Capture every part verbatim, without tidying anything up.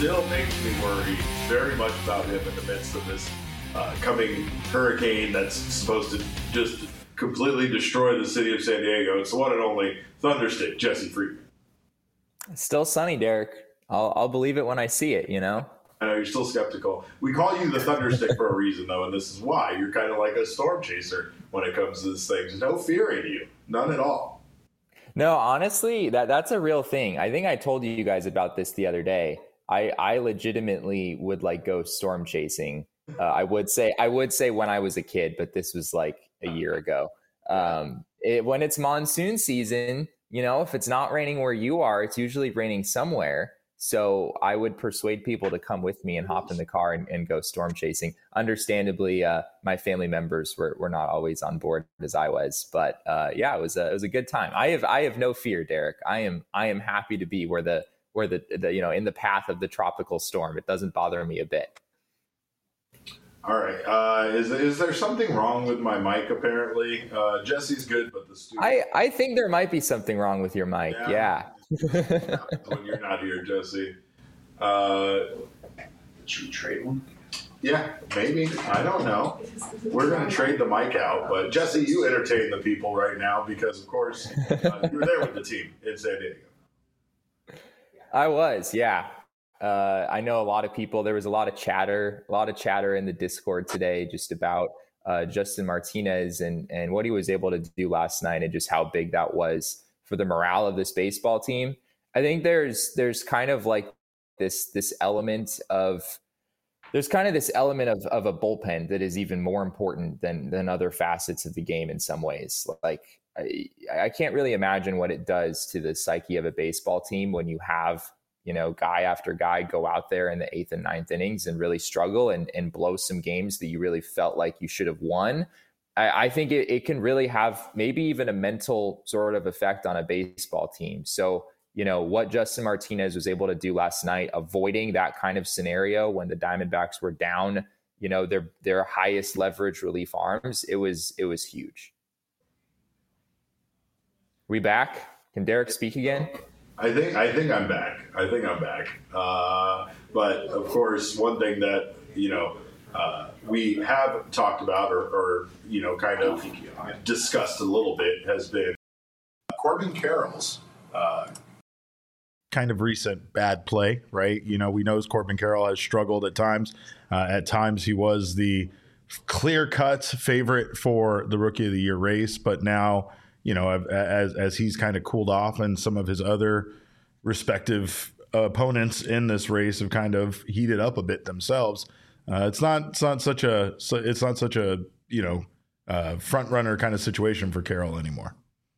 still makes me worry very much about him in the midst of this uh, coming hurricane that's supposed to just completely destroy the city of San Diego. It's the one and only Thunderstick, Jesse Friedman. It's still sunny, Derek. I'll, I'll believe it when I see it, you know? I know you're still skeptical. We call you the Thunderstick for a reason, though, and this is why. You're kind of like a storm chaser when it comes to this thing. There's no fear in you. None at all. No, honestly, that that's a real thing. I think I told you guys about this the other day. I, I legitimately would like go storm chasing. Uh, I would say I would say when I was a kid, but this was like a year ago. Um, it, when it's monsoon season, you know, if it's not raining where you are, it's usually raining somewhere. So I would persuade people to come with me and hop in the car and, and go storm chasing. Understandably, uh, my family members were, were not always on board as I was, but uh, yeah, it was a, it was a good time. I have I have no fear, Derek. I am I am happy to be where the where the, the you know in the path of the tropical storm. It doesn't bother me a bit. All right. Uh, is is there something wrong with my mic? Apparently, uh, Jesse's good, but the studio. I I think there might be something wrong with your mic. Yeah. yeah. When you're not here, Jesse. Uh, Should we trade one? Yeah, maybe. I don't know. We're going to trade the mic out. But, Jesse, you entertain the people right now because, of course, uh, you were there with the team in San Diego. I was, yeah. Uh, I know a lot of people. There was a lot of chatter, a lot of chatter in the Discord today just about uh, Justin Martinez and, and what he was able to do last night and just how big that was for the morale of this baseball team. I think there's there's kind of like this this element of there's kind of this element of of a bullpen that is even more important than than other facets of the game in some ways. Like I, I can't really imagine what it does to the psyche of a baseball team when you have, you know, guy after guy go out there in the eighth and ninth innings and really struggle and, and blow some games that you really felt like you should have won. I, I think it, it can really have maybe even a mental sort of effect on a baseball team. So, you know, what Justin Martinez was able to do last night, avoiding that kind of scenario when the Diamondbacks were down, you know, their their highest leverage relief arms, it was it was huge. We back? Can Derek speak again? I think I think I'm back. I think I'm back. Uh, but of course, one thing that you know uh, we have talked about, or, or you know, kind of discussed a little bit, has been Corbin Carroll's uh, kind of recent bad play. Right? You know, we know Corbin Carroll has struggled at times. Uh, at times, he was the clear-cut favorite for the Rookie of the Year race, but now, you know, as as he's kind of cooled off and some of his other respective opponents in this race have kind of heated up a bit themselves. Uh, it's not it's not such a it's not such a you know uh, front runner kind of situation for Carroll anymore.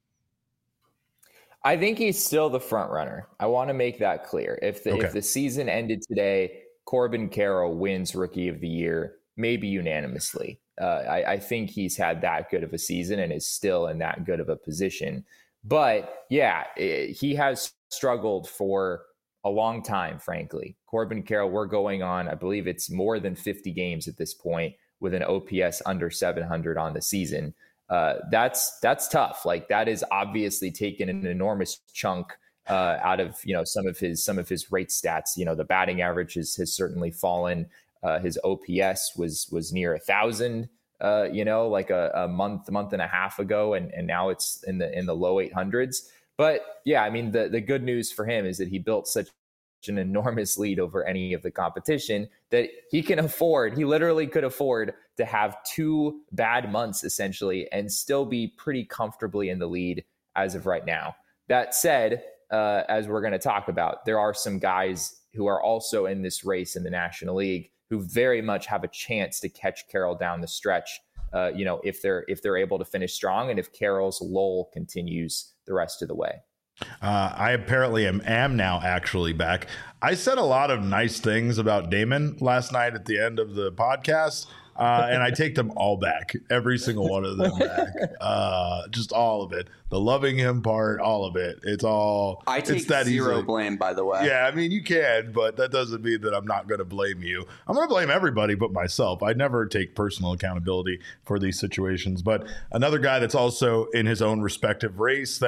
I think he's still the front runner. I want to make that clear. If the Okay. if the season ended today, Corbin Carroll wins Rookie of the Year, maybe unanimously. Uh, I, I think he's had that good of a season and is still in that good of a position. But yeah, it, he has struggled for a long time, frankly. Corbin Carroll, we're going on, I believe it's more than fifty games at this point with an O P S under seven hundred on the season. Uh, that's that's tough. Like that is obviously taken an enormous chunk uh, out of, you know, some of his some of his rate stats. You know, the batting average has, has certainly fallen. Uh, his O P S was was near a thousand, uh, you know, like a, a month, month and a half ago, and and now it's in the in the low eight hundreds. But yeah, I mean, the the good news for him is that he built such an enormous lead over any of the competition that he can afford. He literally could afford to have two bad months essentially and still be pretty comfortably in the lead as of right now. That said, uh, as we're going to talk about, there are some guys who are also in this race in the National League who very much have a chance to catch Carroll down the stretch. Uh, you know, if they're if they're able to finish strong and if Carroll's lull continues the rest of the way. Uh, I apparently am, am now actually back. I said a lot of nice things about Damon last night at the end of the podcast, uh, and I take them all back, every single one of them back, uh, just all of it. The loving him part, all of it. It's all. I take it's that zero easy. blame, by the way. Yeah, I mean, you can, but that doesn't mean that I'm not going to blame you. I'm going to blame everybody but myself. I never take personal accountability for these situations. But another guy that's also in his own respective race that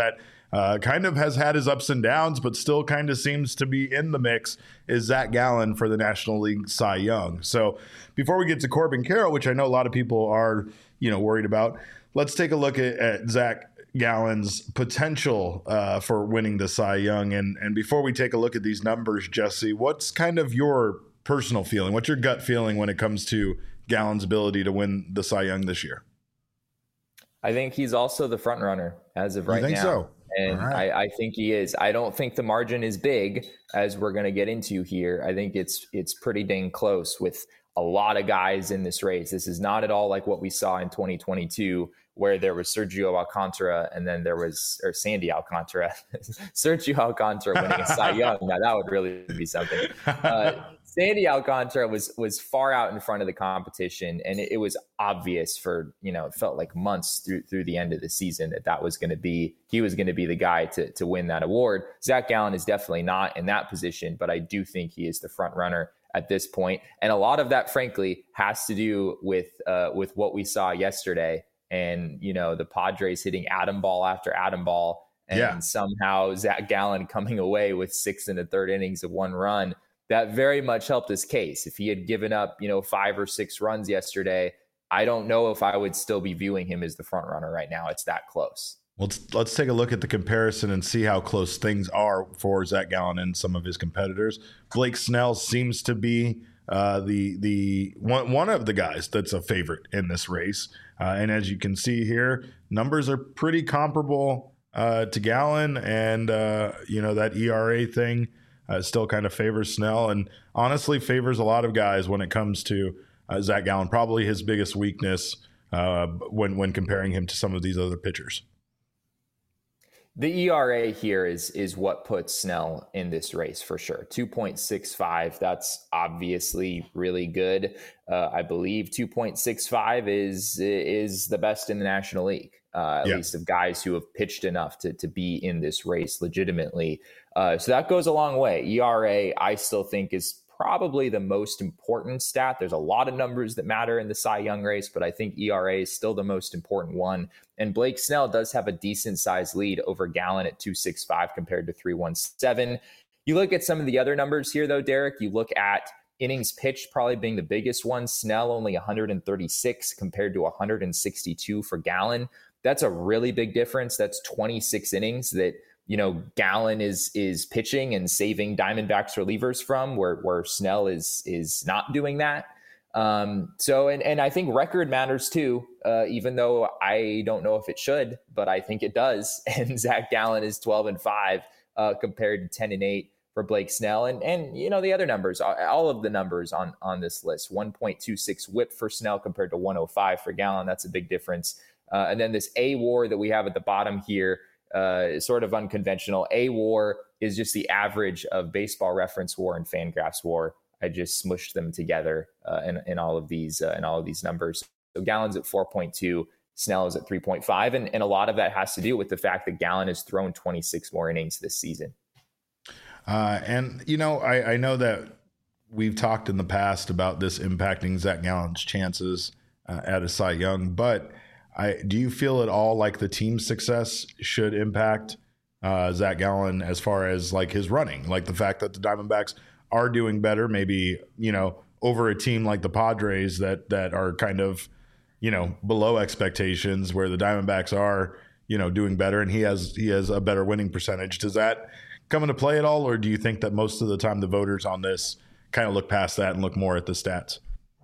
uh, kind of has had his ups and downs, but still kind of seems to be in the mix, is Zach Gallen for the National League Cy Young. So before we get to Corbin Carroll, which I know a lot of people are, you know, worried about, let's take a look at, at Zach Gallen's potential uh, for winning the Cy Young. And, and before we take a look at these numbers, Jesse, what's kind of your personal feeling? What's your gut feeling when it comes to Gallen's ability to win the Cy Young this year? I think he's also the front runner as of right you think now. So? And right. I, I think he is. I don't think the margin is big, as we're going to get into here. I think it's it's pretty dang close with a lot of guys in this race. This is not at all like what we saw in twenty twenty-two, where there was Sergio Alcantara and then there was, or Sandy Alcantara, Sergio Alcantara winning a Cy Young. Now that would really be something. Uh, Sandy Alcantara was was far out in front of the competition, and it, it was obvious for, you know, it felt like months through through the end of the season that that was going to be, he was going to be the guy to to win that award. Zach Gallen is definitely not in that position, but I do think he is the front runner at this point. And a lot of that, frankly, has to do with uh, with what we saw yesterday. And, you know, the Padres hitting atom ball after atom ball, and yeah. somehow Zach Gallen coming away with six and a third innings of one run. That very much helped his case. If he had given up, you know, five or six runs yesterday, I don't know if I would still be viewing him as the front runner right now. It's that close. Let's let's take a look at the comparison and see how close things are for Zach Gallen and some of his competitors. Blake Snell seems to be uh, the the one one of the guys that's a favorite in this race, uh, and as you can see here, numbers are pretty comparable uh, to Gallen, and uh, you know, that E R A thing uh, still kind of favors Snell, and honestly favors a lot of guys when it comes to uh, Zach Gallen. Probably his biggest weakness uh, when when comparing him to some of these other pitchers. The E R A here is is what puts Snell in this race for sure. two point six five, that's obviously really good. Uh, I believe two point six five is is the best in the National League, uh, at yeah. least of guys who have pitched enough to, to be in this race legitimately. Uh, so that goes a long way. E R A, I still think, is probably the most important stat. There's a lot of numbers that matter in the Cy Young race, but I think E R A is still the most important one. And Blake Snell does have a decent sized lead over Gallen at two point six five compared to three point one seven. You look at some of the other numbers here, though, Derek. You look at innings pitched probably being the biggest one. Snell only one hundred thirty-six compared to one hundred sixty-two for Gallen. That's a really big difference. That's twenty-six innings that, you know, Gallen is is pitching and saving Diamondbacks relievers from, where where Snell is is not doing that. Um, so, and and I think record matters too, uh, even though I don't know if it should, but I think it does. And Zach Gallen is twelve and five uh, compared to ten and eight for Blake Snell. And and you know, the other numbers, all of the numbers on on this list: one point two six whip for Snell compared to one oh five for Gallen. That's a big difference. Uh, and then this A WAR that we have at the bottom here. Uh, is sort of unconventional. A WAR is just the average of Baseball Reference WAR and Fangraphs WAR. I just smushed them together uh, in, in all of these uh, in all of these numbers. So Gallen's at four point two, Snell is at three point five, and, and a lot of that has to do with the fact that Gallen has thrown twenty-six more innings this season. Uh, and you know, I, I know that we've talked in the past about this impacting Zach Gallen's chances uh, at a Cy Young, but I, do you feel at all like the team's success should impact uh, Zach Gallen as far as like his running, like the fact that the Diamondbacks are doing better, maybe, you know, over a team like the Padres that that are kind of, you know, below expectations, where the Diamondbacks are, you know, doing better, and he has he has a better winning percentage. Does that come into play at all, or do you think that most of the time the voters on this kind of look past that and look more at the stats?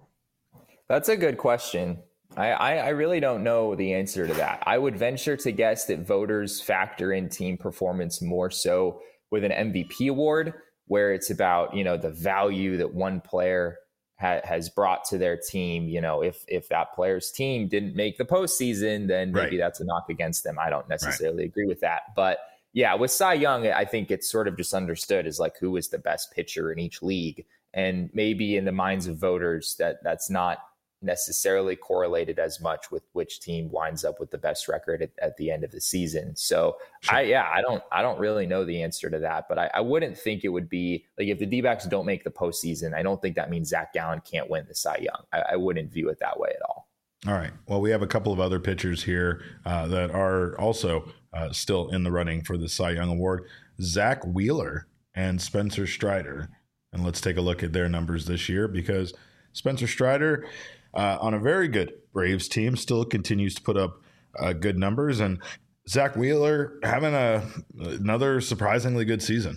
That's a good question. I, I really don't know the answer to that. I would venture to guess that voters factor in team performance more so with an M V P award, where it's about, you know, the value that one player ha- has brought to their team. You know, if if that player's team didn't make the postseason, then maybe right. that's a knock against them. I don't necessarily right. agree with that. But yeah, with Cy Young, I think it's sort of just understood as like who is the best pitcher in each league. And maybe in the minds of voters that that's not necessarily correlated as much with which team winds up with the best record at, at the end of the season. So sure. I, yeah, I don't, I don't really know the answer to that, but I, I wouldn't think it would be like if the D-backs don't make the postseason, I don't think that means Zach Gallen can't win the Cy Young. I, I wouldn't view it that way at all. All right. Well, we have a couple of other pitchers here uh, that are also uh, still in the running for the Cy Young Award. Zach Wheeler and Spencer Strider. And let's take a look at their numbers this year, because Spencer Strider uh, on a very good Braves team still continues to put up uh, good numbers. And Zach Wheeler having a another surprisingly good season.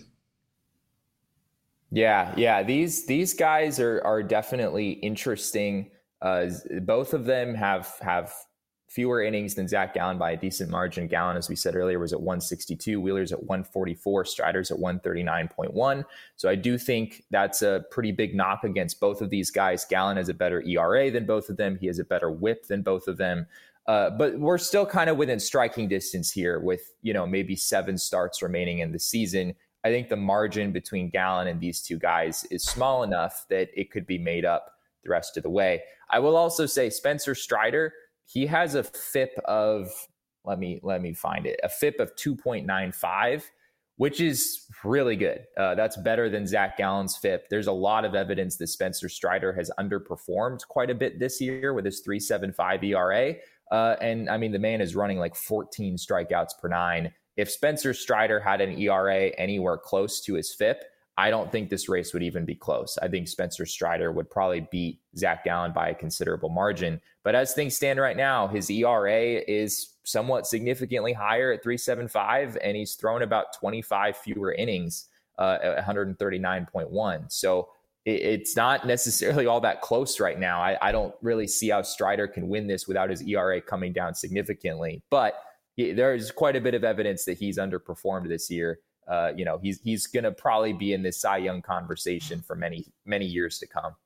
Yeah, yeah. These these guys are are definitely interesting. Uh, both of them have have fewer innings than Zach Gallen by a decent margin. Gallen, as we said earlier, was at one sixty-two. Wheeler's at one forty-four. Strider's at one thirty-nine point one. So I do think that's a pretty big knock against both of these guys. Gallen has a better E R A than both of them. He has a better whip than both of them. Uh, but we're still kind of within striking distance here with, you know, maybe seven starts remaining in the season. I think the margin between Gallen and these two guys is small enough that it could be made up the rest of the way. I will also say Spencer Strider, he has a F I P of, let me let me find it, a F I P of two point nine five, which is really good. Uh, that's better than Zach Gallen's F I P. There's a lot of evidence that Spencer Strider has underperformed quite a bit this year with his three point seven five E R A. Uh, and I mean, the man is running like fourteen strikeouts per nine. If Spencer Strider had an E R A anywhere close to his F I P, I don't think this race would even be close. I think Spencer Strider would probably beat Zach Gallen by a considerable margin. But as things stand right now, his E R A is somewhat significantly higher at three point seven five, and he's thrown about twenty-five fewer innings uh, at one thirty-nine point one. So it, it's not necessarily all that close right now. I, I don't really see how Strider can win this without his E R A coming down significantly. But he, there's quite a bit of evidence that he's underperformed this year. Uh, you know, he's he's going to probably be in this Cy Young conversation for many, many years to come.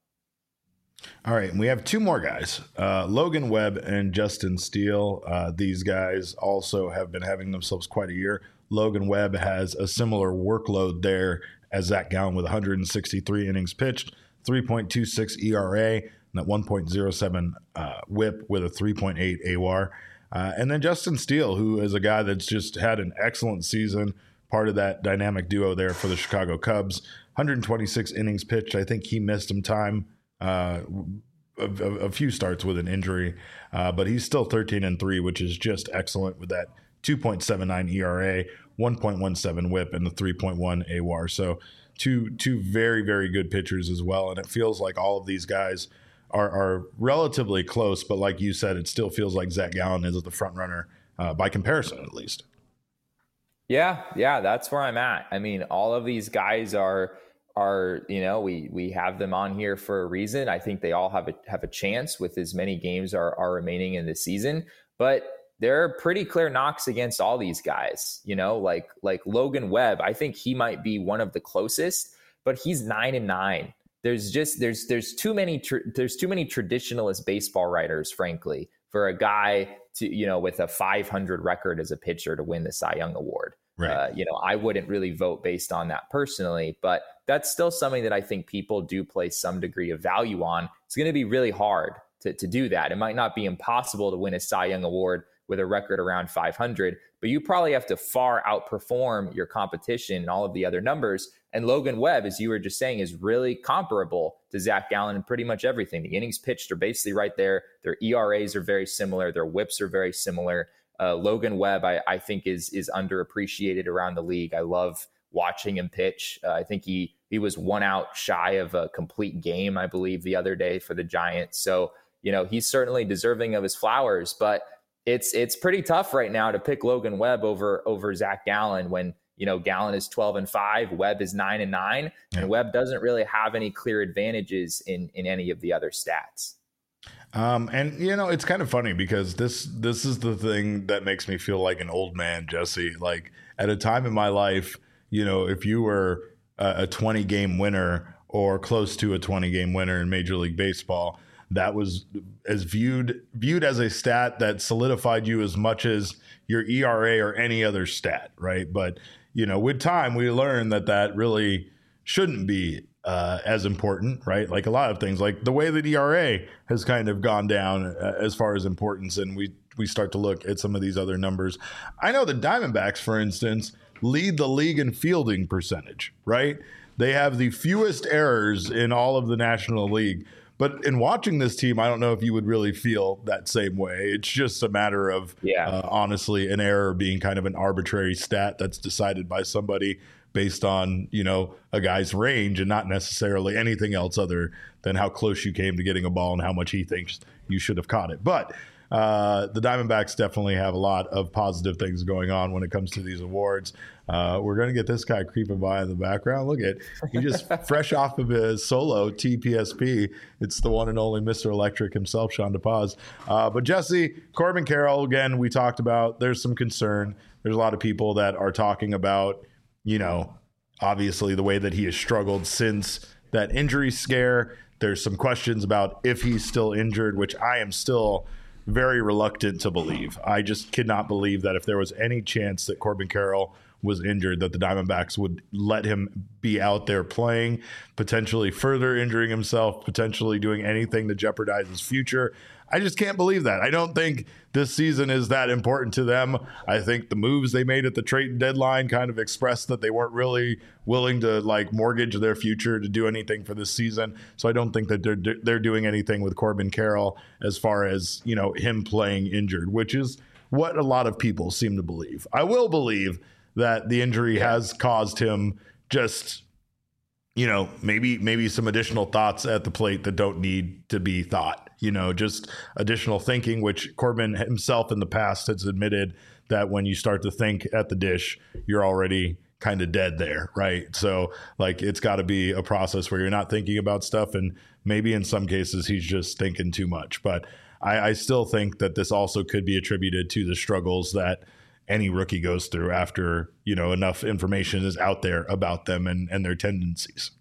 All right. And we have two more guys, uh, Logan Webb and Justin Steele. Uh, these guys also have been having themselves quite a year. Logan Webb has a similar workload there as Zach Gallen with one hundred sixty-three innings pitched, three point two six E R A, and that one point oh seven uh, whip with a three point eight A W A R. Uh, and then Justin Steele, who is a guy that's just had an excellent season, part of that dynamic duo there for the Chicago Cubs. one hundred twenty-six innings pitched. I think he missed some time, uh, a, a, a few starts with an injury, uh, but he's still thirteen and three, which is just excellent with that two point seven nine E R A, one point one seven whip, and the three point one A W A R. So two two very, very good pitchers as well. And it feels like all of these guys are, are relatively close, but like you said, it still feels like Zach Gallen is the front runner uh, by comparison, at least. Yeah, yeah, that's where I'm at. I mean, all of these guys are are, you know, we we have them on here for a reason. I think they all have a have a chance with as many games are are remaining in the season, but there are pretty clear knocks against all these guys, you know, like like Logan Webb. I think he might be one of the closest, but he's nine and nine. There's just there's there's too many tr- there's too many traditionalist baseball writers, frankly, for a guy to, you know, with a five hundred record as a pitcher to win the Cy Young Award. Right. Uh, you know, I wouldn't really vote based on that personally, but that's still something that I think people do place some degree of value on. It's going to be really hard to, to do that. It might not be impossible to win a Cy Young Award with a record around five hundred, but you probably have to far outperform your competition and all of the other numbers. And Logan Webb, as you were just saying, is really comparable to Zach Gallen in pretty much everything. The innings pitched are basically right there. Their E R As are very similar. Their whips are very similar. Uh, Logan Webb, I, I think, is is underappreciated around the league. I love watching him pitch. Uh, I think he he was one out shy of a complete game, I believe, the other day for the Giants. So, you know, he's certainly deserving of his flowers, but it's it's pretty tough right now to pick Logan Webb over over Zach Gallen when, you know, Gallen is twelve and five, Webb is nine and nine, and Webb doesn't really have any clear advantages in in any of the other stats. Um, and you know, it's kind of funny because this this is the thing that makes me feel like an old man, Jesse. Like at a time in my life, you know, if you were a twenty game winner or close to a twenty game winner in Major League Baseball, that was as viewed viewed as a stat that solidified you as much as your E R A or any other stat, right? But you know, with time, we learned that that really shouldn't be uh, as important, right? Like a lot of things, like the way that E R A has kind of gone down uh, as far as importance, and we we start to look at some of these other numbers. I know the Diamondbacks, for instance, lead the league in fielding percentage, right? They have the fewest errors in all of the National League, But in watching this team, I don't know if you would really feel that same way. It's just a matter of, yeah. uh, honestly, an error being kind of an arbitrary stat that's decided by somebody based on, you know, a guy's range and not necessarily anything else other than how close you came to getting a ball and how much he thinks you should have caught it. But uh, the Diamondbacks definitely have a lot of positive things going on when it comes to these awards. Uh, we're going to get this guy creeping by in the background. Look at, he just fresh off of his solo T P S P. It's the one and only Mister Electric himself, Sean DePaz. Uh, but Jesse, Corbin Carroll, again, we talked about, there's some concern. There's a lot of people that are talking about, you know, obviously the way that he has struggled since that injury scare. There's some questions about if he's still injured, which I am still very reluctant to believe. I just cannot believe that if there was any chance that Corbin Carroll was injured, that the Diamondbacks would let him be out there playing, potentially further injuring himself, potentially doing anything to jeopardize his future. I just can't believe that. I don't think this season is that important to them. I think the moves they made at the trade deadline kind of expressed that they weren't really willing to like mortgage their future to do anything for this season. So I don't think that they're they're doing anything with Corbin Carroll as far as, you know, him playing injured, which is what a lot of people seem to believe. I will believe that the injury yeah. has caused him just, you know, maybe maybe some additional thoughts at the plate that don't need to be thought. You know, just additional thinking, which Corbin himself in the past has admitted that when you start to think at the dish, you're already kind of dead there, right? So, like, it's got to be a process where you're not thinking about stuff, and maybe in some cases he's just thinking too much. But I, I still think that this also could be attributed to the struggles that any rookie goes through after, you know, enough information is out there about them and, and their tendencies.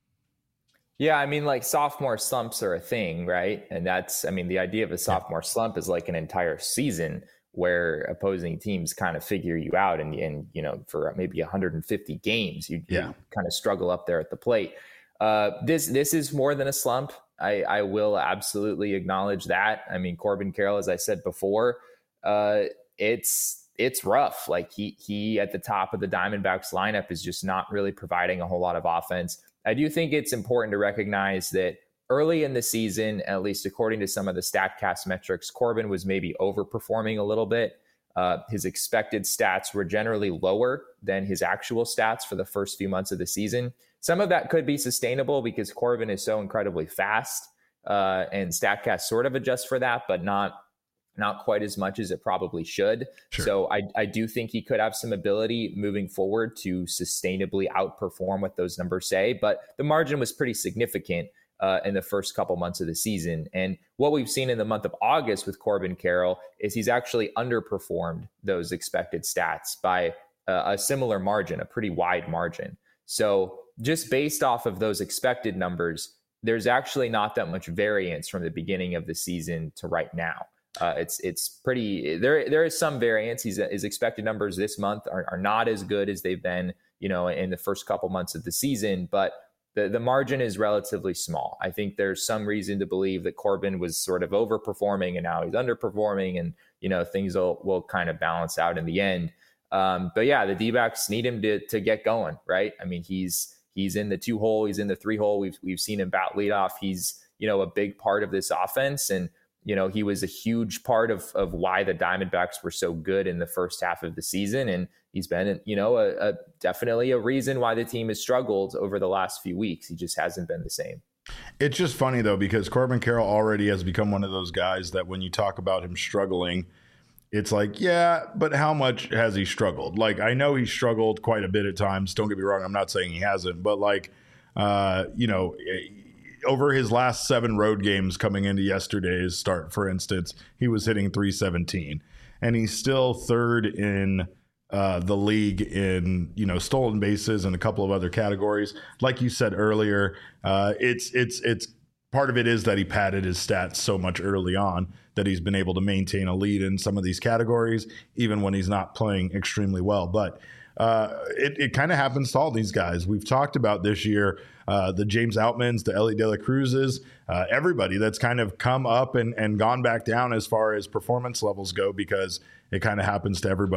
Yeah, I mean, like sophomore slumps are a thing, right? And that's, I mean, the idea of a sophomore slump is like an entire season where opposing teams kind of figure you out, and, and you know, for maybe one hundred fifty games, you, yeah. you kind of struggle up there at the plate. Uh, this this is more than a slump. I, I will absolutely acknowledge that. I mean, Corbin Carroll, as I said before, uh, it's it's rough. Like he he at the top of the Diamondbacks lineup is just not really providing a whole lot of offense. I do think it's important to recognize that early in the season, at least according to some of the StatCast metrics, Corbin was maybe overperforming a little bit. Uh, his expected stats were generally lower than his actual stats for the first few months of the season. Some of that could be sustainable because Corbin is so incredibly fast, uh, and StatCast sort of adjusts for that, but not not quite as much as it probably should. Sure. So I, I do think he could have some ability moving forward to sustainably outperform what those numbers say, but the margin was pretty significant uh, in the first couple months of the season. And what we've seen in the month of August with Corbin Carroll is he's actually underperformed those expected stats by uh, a similar margin, a pretty wide margin. So just based off of those expected numbers, there's actually not that much variance from the beginning of the season to right now. Uh, it's it's pretty there. There is some variance. He's, his expected numbers this month are, are not as good as they've been, you know, in the first couple months of the season. But the the margin is relatively small. I think there's some reason to believe that Corbin was sort of overperforming and now he's underperforming, and you know things will will kind of balance out in the end. Um, but yeah, the D-backs need him to to get going, right? I mean, he's he's in the two hole, he's in the three hole. We've we've seen him bat leadoff. He's you know a big part of this offense, and you know, he was a huge part of of why the Diamondbacks were so good in the first half of the season. And he's been, you know, a, a definitely a reason why the team has struggled over the last few weeks. He just hasn't been the same. It's just funny, though, because Corbin Carroll already has become one of those guys that when you talk about him struggling, it's like, yeah, but how much has he struggled? Like, I know he struggled quite a bit at times. Don't get me wrong. I'm not saying he hasn't. But like, uh, you know, over his last seven road games coming into yesterday's start, for instance, he was hitting three seventeen, and he's still third in uh, the league in, you know, stolen bases and a couple of other categories. Like you said earlier, uh, it's it's it's part of it is that he padded his stats so much early on that he's been able to maintain a lead in some of these categories, even when he's not playing extremely well. But uh, it, it kind of happens to all these guys. We've talked about this year, uh, the James Outmans, the Elly De La Cruzes, uh, everybody that's kind of come up and, and gone back down as far as performance levels go, because it kind of happens to everybody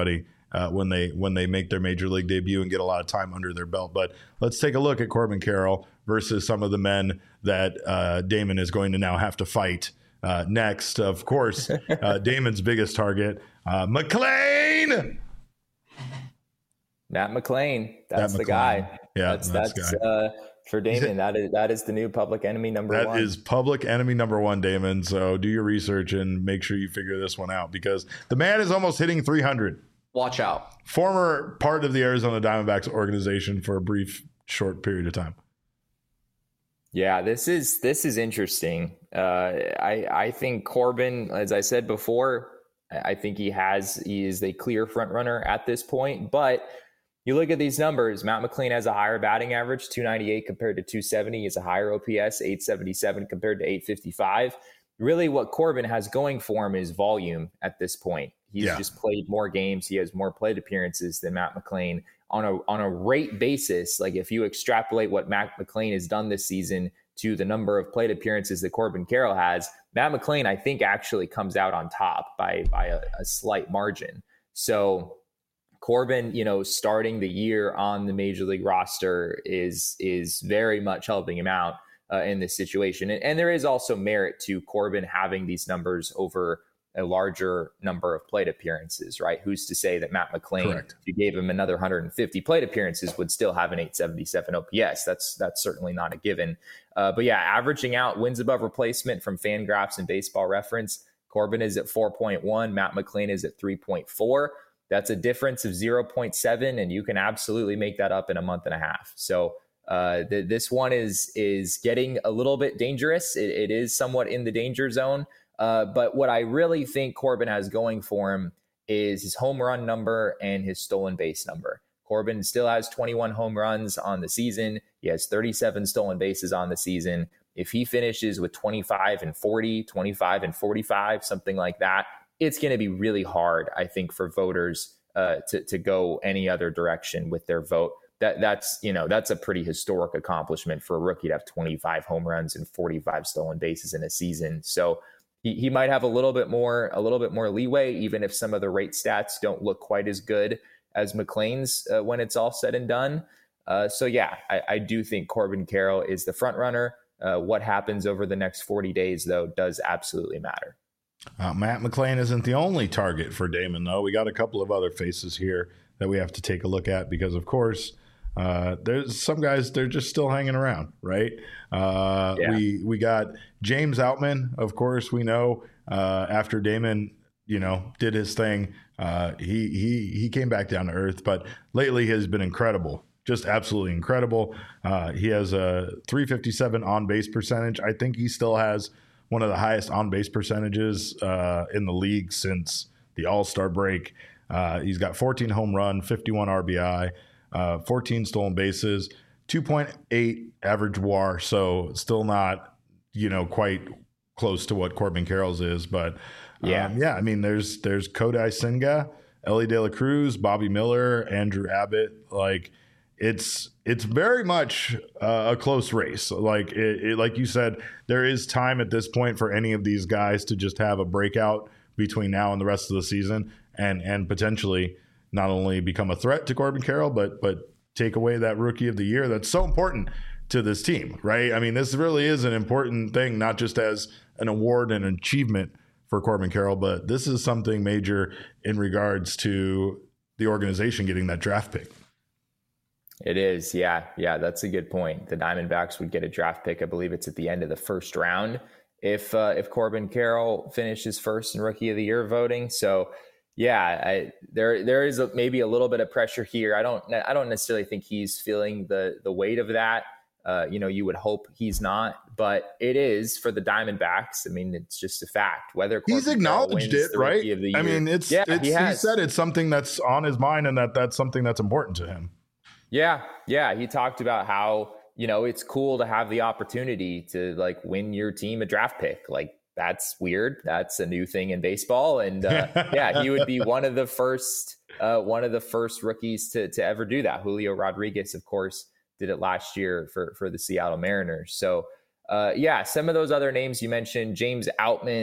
uh, when they when they make their major league debut and get a lot of time under their belt. But let's take a look at Corbin Carroll versus some of the men that uh, Damon is going to now have to fight uh, next. Of course, uh, Damon's biggest target, uh, McLain. Matt McLain. That's Matt the McLain. guy. Yeah, that's that's, that's guy. uh, for Damon. That is that is the new public enemy number That one. is public enemy number one, Damon. So do your research and make sure you figure this one out, because the man is almost hitting three hundred. Watch out. Former part of the Arizona Diamondbacks organization for a brief, short period of time. Yeah, this is this is interesting. Uh, I I think Corbin, as I said before, I think he has he is a clear front runner at this point. But you look at these numbers, Matt McLain has a higher batting average, two ninety-eight compared to two seventy. He has a higher O P S, eight seventy-seven compared to eight fifty-five. Really what Corbin has going for him is volume at this point. He's yeah. just played more games. He has more plate appearances than Matt McLain on a on a rate basis. Like if you extrapolate what Matt McLain has done this season to the number of plate appearances that Corbin Carroll has, Matt McLain, I think, actually comes out on top by by a, a slight margin. So Corbin, you know, starting the year on the major league roster is is very much helping him out uh, in this situation. And, and there is also merit to Corbin having these numbers over a larger number of plate appearances, right? Who's to say that Matt McLain, Correct. if you gave him another one hundred fifty plate appearances, would still have an eight seventy-seven O P S? That's that's certainly not a given. Uh, but yeah, averaging out wins above replacement from Fangraphs and Baseball Reference, Corbin is at four point one, Matt McLain is at three point four. That's a difference of zero point seven, and you can absolutely make that up in a month and a half. So uh, th- this one is is getting a little bit dangerous. It, it is somewhat in the danger zone. Uh, but what I really think Corbin has going for him is his home run number and his stolen base number. Corbin still has twenty-one home runs on the season. He has thirty-seven stolen bases on the season. If he finishes with twenty-five and forty, twenty-five and forty-five, something like that, it's going to be really hard, I think, for voters uh, to, to go any other direction with their vote. That that's, you know, that's a pretty historic accomplishment for a rookie to have twenty-five home runs and forty-five stolen bases in a season. So he, he might have a little bit more, a little bit more leeway, even if some of the rate stats don't look quite as good as McLain's uh, when it's all said and done. Uh, so yeah, I, I do think Corbin Carroll is the front runner. Uh, what happens over the next forty days, though, does absolutely matter. Uh, Matt McLain isn't the only target for Damon, though. We got a couple of other faces here that we have to take a look at because, of course, uh, there's some guys, they're just still hanging around, right? Uh, yeah. We we got James Outman, of course, we know uh, after Damon, you know, did his thing, uh, he, he, he came back down to earth, but lately has been incredible. Just absolutely incredible. Uh, he has a three fifty-seven on-base percentage. I think he still has one of the highest on-base percentages uh, in the league since the All-Star break. Uh, he's got fourteen home run, fifty-one R B I, uh, fourteen stolen bases, two point eight average W A R. So still not, you know, quite close to what Corbin Carroll's is. But um, yeah, yeah. I mean, there's there's Kodai Senga, Ellie De La Cruz, Bobby Miller, Andrew Abbott. Like it's it's very much uh, a close race. Like it, it, like you said, there is time at this point for any of these guys to just have a breakout between now and the rest of the season, and and potentially not only become a threat to Corbin Carroll, but but take away that Rookie of the Year that's so important to this team, right? I mean, this really is an important thing, not just as an award and an achievement for Corbin Carroll, but this is something major in regards to the organization getting that draft pick. It is. Yeah. Yeah. That's a good point. The Diamondbacks would get a draft pick. I believe it's at the end of the first round if, uh, if Corbin Carroll finishes first in Rookie of the Year voting. So yeah, I, there, there is a, maybe a little bit of pressure here. I don't, I don't necessarily think he's feeling the, the weight of that. Uh, you know, you would hope he's not, but it is for the Diamondbacks. I mean, it's just a fact. Whether Corbin he's acknowledged it, right? I mean, it's, yeah, it's he, he said it's something that's on his mind and that that's something that's important to him. Yeah. Yeah. He talked about how, you know, it's cool to have the opportunity to like win your team a draft pick. Like that's weird. That's a new thing in baseball. And uh, yeah, he would be one of the first, uh, one of the first rookies to, to ever do that. Julio Rodriguez, of course, did it last year for, for the Seattle Mariners. So uh, yeah, some of those other names you mentioned, James Outman,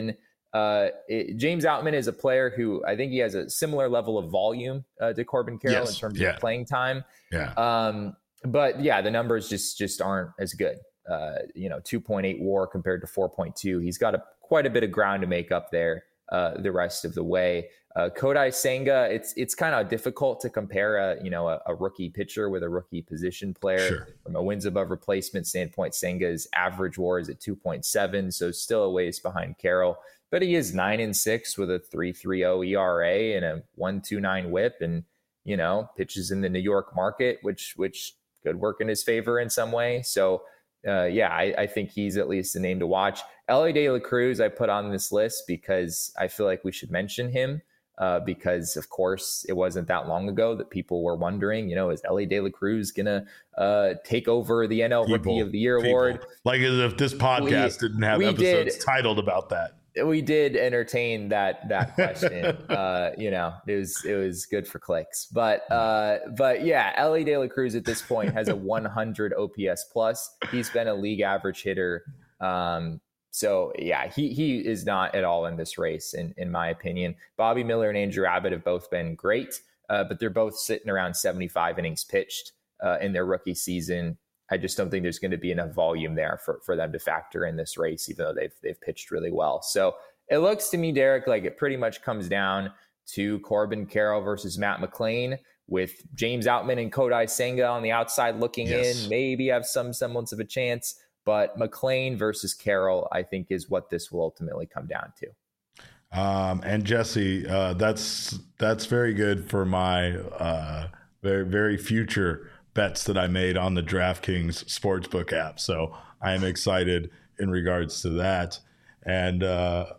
Uh, it, James Outman is a player who I think he has a similar level of volume uh, to Corbin Carroll yes. in terms yeah. of playing time. Yeah. Um, but yeah, the numbers just just aren't as good. Uh, you know, two point eight WAR compared to four point two. He's got a quite a bit of ground to make up there uh, the rest of the way. Uh, Kodai Senga, it's it's kind of difficult to compare a you know a, a rookie pitcher with a rookie position player. Sure. From a wins above replacement standpoint. Senga's average WAR is at two point seven, so still a ways behind Carroll. But he is nine and six with a three point three oh E R A and a one point two nine WHIP, and you know pitches in the New York market, which which could work in his favor in some way. So. Uh, yeah, I, I think he's at least a name to watch. Elly De La Cruz, I put on this list because I feel like we should mention him uh, because, of course, it wasn't that long ago that people were wondering, you know, is Elly De La Cruz going to uh, take over the N L people, Rookie of the Year people. award? Like as if this podcast we, didn't have episodes did, titled about that. We did entertain that that question. uh, you know, it was it was good for clicks. But uh, but yeah, Elly De La Cruz at this point has a one hundred O P S plus. He's been a league average hitter. Um, so yeah, he he is not at all in this race, in in my opinion. Bobby Miller and Andrew Abbott have both been great, uh, but they're both sitting around seventy-five innings pitched uh, in their rookie season. I just don't think there's going to be enough volume there for, for them to factor in this race, even though they've they've pitched really well. So it looks to me, Derek, like it pretty much comes down to Corbin Carroll versus Matt McLain, with James Outman and Kodai Senga on the outside looking yes. in, maybe have some semblance of a chance. But McLain versus Carroll, I think, is what this will ultimately come down to. Um, and Jesse, uh, that's that's very good for my uh, very very future bets that I made on the DraftKings Sportsbook app. So I am excited in regards to that. And uh,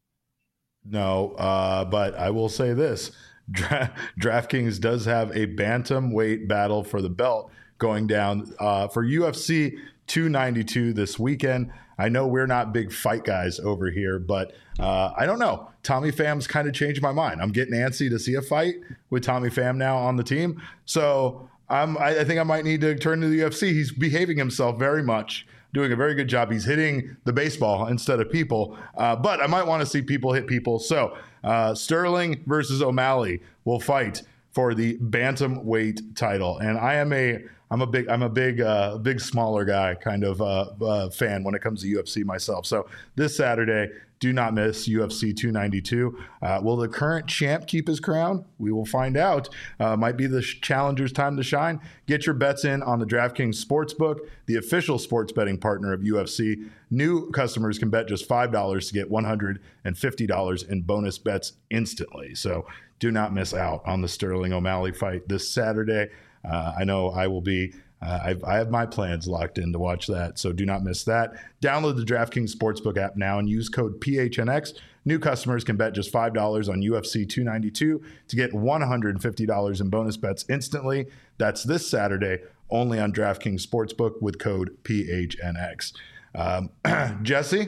no, uh, but I will say this. Dra- DraftKings does have a bantamweight battle for the belt going down uh, for U F C two ninety-two this weekend. I know we're not big fight guys over here, but uh, I don't know. Tommy Pham's kind of changed my mind. I'm getting antsy to see a fight with Tommy Pham now on the team. So I'm, I think I might need to turn to the U F C. He's behaving himself very much, doing a very good job. He's hitting the baseball instead of people, uh, but I might want to see people hit people. So uh, Sterling versus O'Malley will fight for the bantamweight title, and I am a I'm a big I'm a big uh, big smaller guy kind of uh, uh, fan when it comes to U F C myself. So this Saturday, do not miss U F C two ninety-two. Uh, will the current champ keep his crown? We will find out. Uh, might be the challenger's time to shine. Get your bets in on the DraftKings Sportsbook, the official sports betting partner of U F C. New customers can bet just five dollars to get one hundred fifty dollars in bonus bets instantly. So do not miss out on the Sterling O'Malley fight this Saturday. Uh, I know I will be. Uh, I've, I have my plans locked in to watch that, so do not miss that. Download the DraftKings Sportsbook app now and use code P H N X. New customers can bet just five dollars on U F C two ninety-two to get one hundred fifty dollars in bonus bets instantly. That's this Saturday, only on DraftKings Sportsbook with code P H N X. Um, Jesse,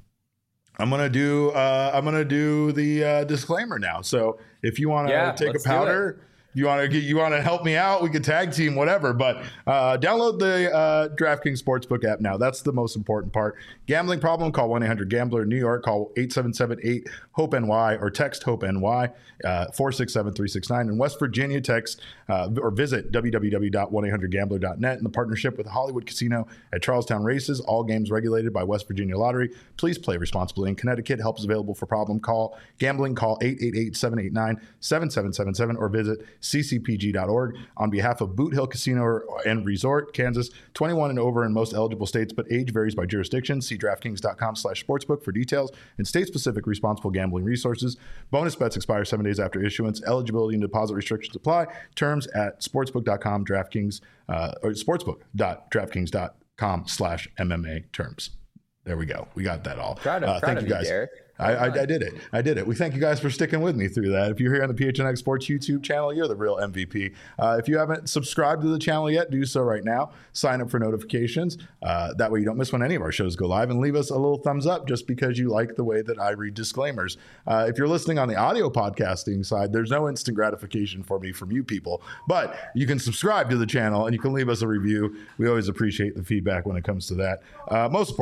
I'm gonna do. Uh, I'm gonna do the uh, disclaimer now. So if you want to yeah, take a powder. You want to get, you want to help me out? We could tag team, whatever. But uh, download the uh, DraftKings Sportsbook app now. That's the most important part. Gambling problem? Call one eight hundred gambler. In New York, call eight seven seven eight hope N Y or text HOPE-NY uh, four six seven three six nine. In West Virginia, text uh, or visit w w w dot one eight hundred gambler dot net in the partnership with Hollywood Casino at Charlestown Races. All games regulated by West Virginia Lottery. Please play responsibly. In Connecticut, help is available for problem call gambling. Call eight eight eight seven eight nine seven seven seven seven or visit c c p g dot org. On behalf of Boot Hill Casino and Resort, Kansas, twenty-one and over in most eligible states, but age varies by jurisdiction. See DraftKings.com slash sportsbook for details and state-specific responsible gambling resources. Bonus bets expire seven days after issuance. Eligibility and deposit restrictions apply. Terms at sportsbook dot com, DraftKings, uh, or sportsbook dot draftkings dot com slash M M A terms. There we go. We got that all. Proud of, uh, proud thank of you guys. You, Derek. I, I, I did it. I did it. We thank you guys for sticking with me through that. If you're here on the P H N X Sports YouTube channel, you're the real M V P. Uh, if you haven't subscribed to the channel yet, do so right now. Sign up for notifications. Uh, that way you don't miss when any of our shows go live. And leave us a little thumbs up just because you like the way that I read disclaimers. Uh, if you're listening on the audio podcasting side, there's no instant gratification for me from you people. But you can subscribe to the channel and you can leave us a review. We always appreciate the feedback when it comes to that. Uh, most importantly,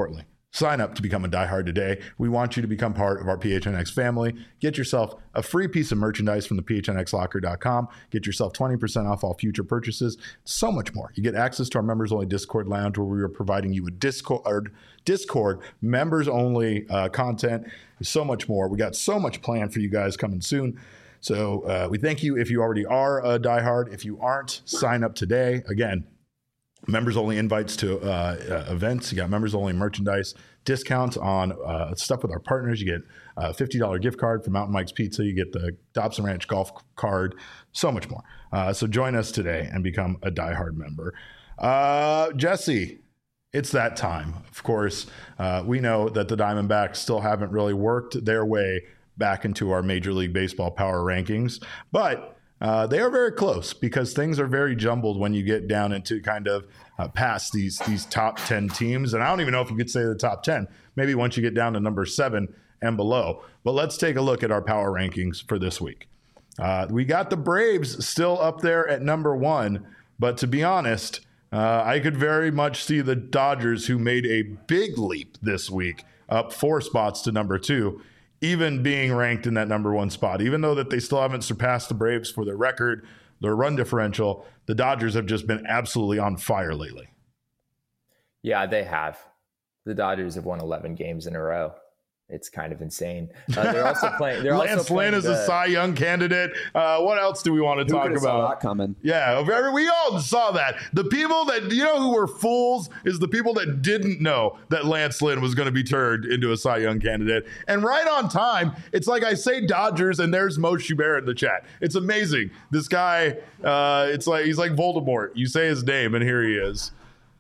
Sign up to become a diehard today. We want you to become part of our P H N X family. Get yourself a free piece of merchandise from the P H N X locker dot com. Get yourself twenty percent off all future purchases. So much more. You get access to our members-only Discord lounge where we are providing you with Discord, Discord members-only uh, content. So much more. We got so much planned for you guys coming soon. So uh, we thank you if you already are a diehard. If you aren't, sign up today. Again, members only invites to uh, uh, events. You got members only merchandise, discounts on uh, stuff with our partners. You get a fifty dollars gift card from Mountain Mike's Pizza. You get the Dobson Ranch golf card, so much more. Uh, so join us today and become a diehard member. Uh, Jesse, it's that time. Of course, uh, we know that the Diamondbacks still haven't really worked their way back into our Major League Baseball power rankings, but Uh, they are very close because things are very jumbled when you get down into kind of uh, past these these top ten teams. And I don't even know if you could say the top ten, maybe once you get down to number seven and below. But let's take a look at our power rankings for this week. Uh, we got the Braves still up there at number one. But to be honest, uh, I could very much see the Dodgers, who made a big leap this week, up four spots to number two, even being ranked in that number one spot. Even though that they still haven't surpassed the Braves for their record, their run differential, the Dodgers have just been absolutely on fire lately. Yeah, they have. The Dodgers have won eleven games in a row. It's kind of insane. Uh, they're also playing. They're Lance also playing Lynn is the, a Cy Young candidate. Uh, what else do we want to Who talk could've about? saw that coming? Yeah, we all saw that. The people that, you know, who were fools is the people that didn't know that Lance Lynn was going to be turned into a Cy Young candidate. And right on time, it's like I say Dodgers, and there's Mo Schubert in the chat. It's amazing. This guy, uh, it's like he's like Voldemort. You say his name, and here he is.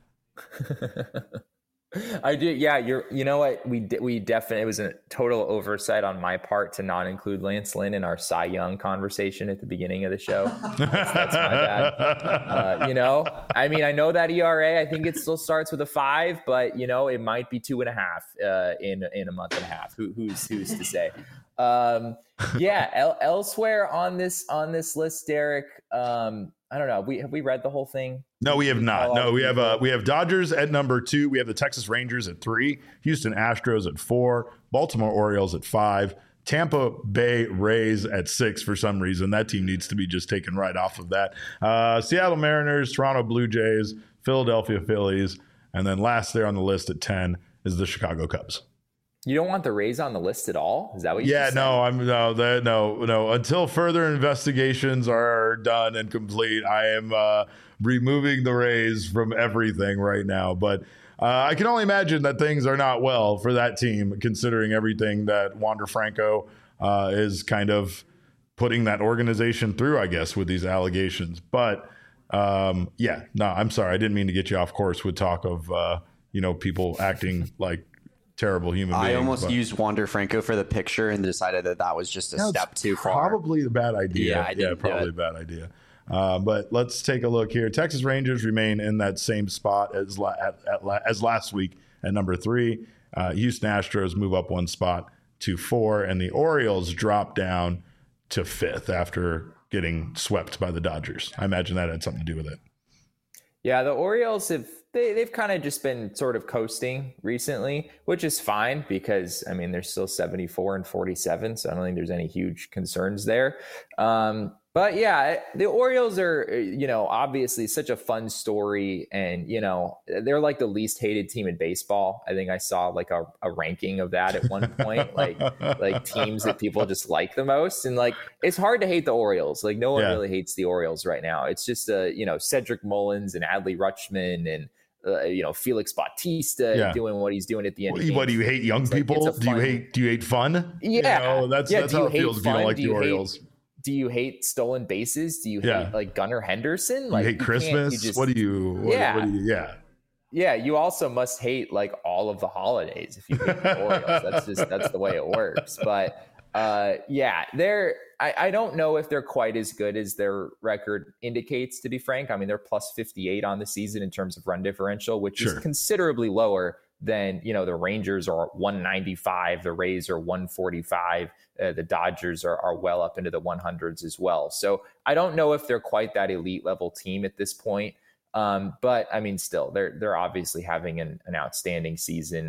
I do. Yeah. You're, you know what? We did, we definitely, it was a total oversight on my part to not include Lance Lynn in our Cy Young conversation at the beginning of the show. That's, that's my bad. Uh, you know, I mean, I know that E R A, I think it still starts with a five, but you know, it might be two and a half uh, in, in a month and a half. Who, who's, who's to say? Um, yeah. El- elsewhere on this, on this list, Derek, um, I don't know. We have we read the whole thing? No, we have not. No, we have uh, we have Dodgers at number two. We have the Texas Rangers at three, Houston Astros at four, Baltimore Orioles at five, Tampa Bay Rays at six for some reason. That team needs to be just taken right off of that. Uh, Seattle Mariners, Toronto Blue Jays, Philadelphia Phillies, and then last there on the list at ten is the Chicago Cubs. You don't want the Rays on the list at all? Is that what you Yeah, just no, said? I'm no, that, no, no. Until further investigations are done and complete, I am uh, removing the Rays from everything right now. But uh, I can only imagine that things are not well for that team, considering everything that Wander Franco uh, is kind of putting that organization through, I guess, with these allegations. But um, yeah, no, I'm sorry. I didn't mean to get you off course with talk of, uh, you know, people acting like terrible human beings. I almost but used Wander Franco for the picture and decided that that was just a no, step too far. Probably a bad idea. Yeah, I yeah didn't probably a bad idea. Uh, but let's take a look here. Texas Rangers remain in that same spot as la- at, at la- as last week at number three. Uh, Houston Astros move up one spot to four, and the Orioles drop down to fifth after getting swept by the Dodgers. I imagine that had something to do with it. Yeah, the Orioles have they, they've kind of just been sort of coasting recently, which is fine because, I mean, they're still seventy-four and forty-seven, so I don't think there's any huge concerns there. Um, but yeah, the Orioles are, you know, obviously such a fun story, and, you know, they're like the least hated team in baseball. I think I saw like a, a ranking of that at one point, like like teams that people just like the most. And like, it's hard to hate the Orioles. Like no one Yeah. really hates the Orioles right now. It's just, uh, you know, Cedric Mullins and Adley Rutschman and, Uh, you know, Felix Bautista Yeah. doing what he's doing at the end. What, of games. what do you hate young It's like, people? it's a do you fun- hate do you hate fun? Yeah, You know, that's yeah. that's do how you it hate feels if you don't fun? like do the you Orioles. Hate, do you hate stolen bases? Do you Yeah. hate like Gunnar Henderson? Like you hate can't- Christmas? you just- what do you what, Yeah. what do you yeah. Yeah, you also must hate like all of the holidays if you hate the Orioles. That's just that's the way it works. But uh, yeah, they're I, I don't know if they're quite as good as their record indicates, to be frank. I mean, they're plus fifty-eight on the season in terms of run differential, which Sure. is considerably lower than, you know, the Rangers are one ninety-five, the Rays are one forty-five, uh, the Dodgers are, are well up into the one hundreds as well. So I don't know if they're quite that elite level team at this point. Um, but I mean, still, they're they're obviously having an, an outstanding season, and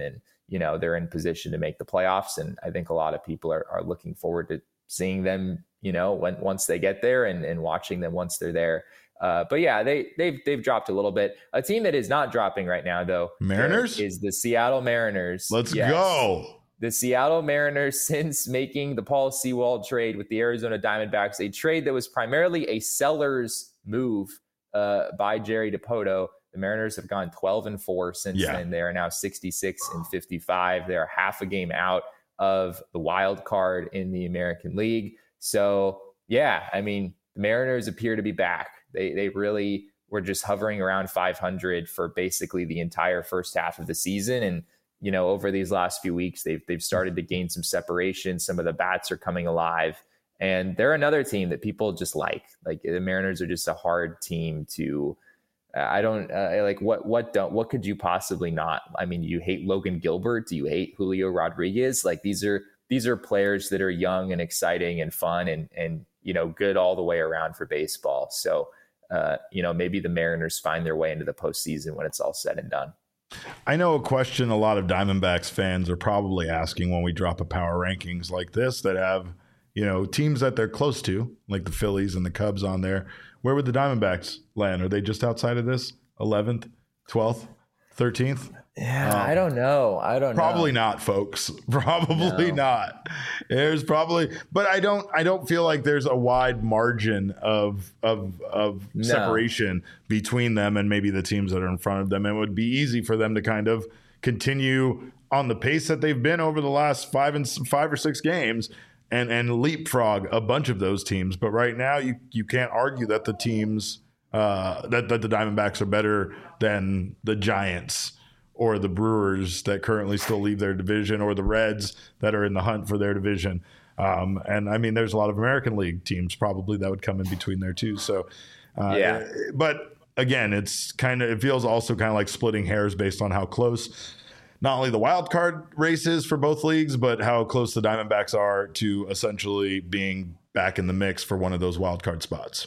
you know, they're in position to make the playoffs. And I think a lot of people are, are looking forward to seeing them, you know, when once they get there and, and watching them once they're there. Uh, but yeah, they they've they've dropped a little bit. A team that is not dropping right now, though, Mariners, is the Seattle Mariners. Let's yes. go. The Seattle Mariners, since making the Paul Sewald trade with the Arizona Diamondbacks, a trade that was primarily a seller's move uh, by Jerry Dipoto, the Mariners have gone twelve and four since yeah. then. They are now sixty-six and fifty-five. They are half a game out of the wild card in the American League. So, yeah, I mean, the Mariners appear to be back. They they really were just hovering around five hundred for basically the entire first half of the season. And, you know, over these last few weeks, they've they've started to gain some separation. Some of the bats are coming alive. And they're another team that people just like. Like the Mariners are just a hard team to uh, I don't uh, like what what don't what could you possibly not? I mean, you hate Logan Gilbert? Do you hate Julio Rodriguez? Like these are these are players that are young and exciting and fun and and you know, good all the way around for baseball. So Uh, you know, maybe the Mariners find their way into the postseason when it's all said and done. I know a question a lot of Diamondbacks fans are probably asking when we drop a power rankings like this that have, you know, teams that they're close to, like the Phillies and the Cubs on there. Where would the Diamondbacks land? Are they just outside of this? eleventh, twelfth, thirteenth? Yeah, um, I don't know. I don't probably know. not, folks. Probably no. not. There's probably, but I don't. I don't feel like there's a wide margin of of of no. separation between them and maybe the teams that are in front of them. And it would be easy for them to kind of continue on the pace that they've been over the last five and five or six games, and and leapfrog a bunch of those teams. But right now, you you can't argue that the teams uh, that that the Diamondbacks are better than the Giants or the Brewers that currently still lead their division, or the Reds that are in the hunt for their division. Um, and I mean, there's a lot of American League teams probably that would come in between there too. So, uh, yeah. But again, it's kind of, it feels also kind of like splitting hairs based on how close not only the wild card race is for both leagues, but how close the Diamondbacks are to essentially being back in the mix for one of those wild card spots.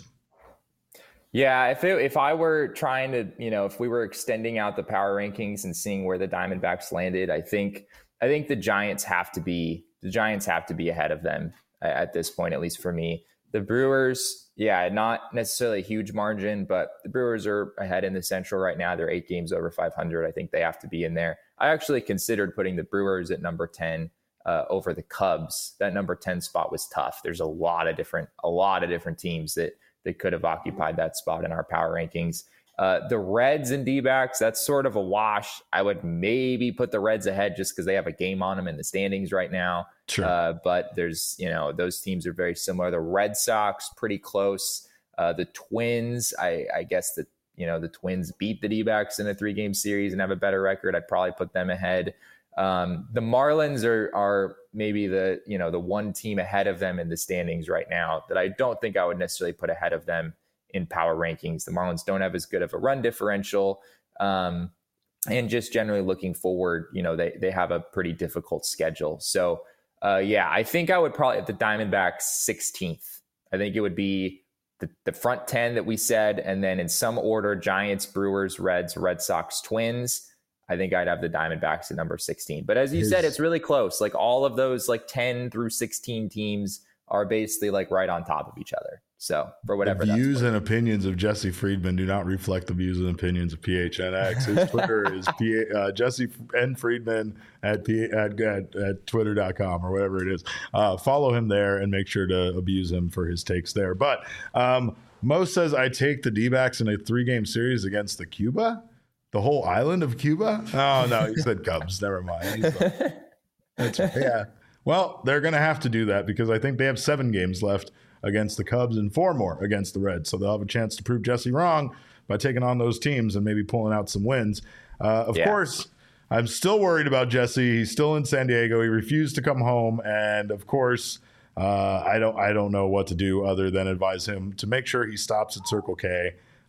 Yeah, if it, if I were trying to, you know, if we were extending out the power rankings and seeing where the Diamondbacks landed, I think I think the Giants have to be the Giants have to be ahead of them at this point, at least for me. The Brewers, yeah, not necessarily a huge margin, but the Brewers are ahead in the Central right now. They're eight games over five hundred. I think they have to be in there. I actually considered putting the Brewers at number ten uh, over the Cubs. That number ten spot was tough. There's a lot of different a lot of different teams that They could have occupied that spot in our power rankings. Uh, the Reds and D-backs, that's sort of a wash. I would maybe put the Reds ahead just because they have a game on them in the standings right now. Sure. Uh, but there's, you know, those teams are very similar. The Red Sox, pretty close. Uh, the Twins, I, I guess that, you know, the Twins beat the D-backs in a three-game series and have a better record. I'd probably put them ahead. Um, the Marlins are are maybe the, you know, the one team ahead of them in the standings right now that I don't think I would necessarily put ahead of them in power rankings. The Marlins don't have as good of a run differential. Um, and just generally looking forward, you know, they, they have a pretty difficult schedule. So, uh, yeah, I think I would probably have the Diamondbacks sixteenth. I think it would be the, the front ten that we said. And then in some order, Giants, Brewers, Reds, Red Sox, Twins. I think I'd have the Diamondbacks at number sixteen. But as you His, said, it's really close. Like all of those like ten through sixteen teams are basically like right on top of each other. So for whatever the views that's and opinions of Jesse Friedman do not reflect the views and opinions of P H N X. His Twitter is P, uh, Jesse N Friedman at, P, at, at, at twitter dot com or whatever it is. Uh, follow him there and make sure to abuse him for his takes there. But um, Mo says I take the D-backs in a three-game series against the Cuba. The whole island of Cuba? Oh, no, he said Cubs. Never mind. That's right. Yeah. Well, they're going to have to do that because I think they have seven games left against the Cubs and four more against the Reds. So they'll have a chance to prove Jesse wrong by taking on those teams and maybe pulling out some wins. Uh, of yeah. course, I'm still worried about Jesse. He's still in San Diego. He refused to come home. And, of course, uh, I don't I don't know what to do other than advise him to make sure he stops at Circle K.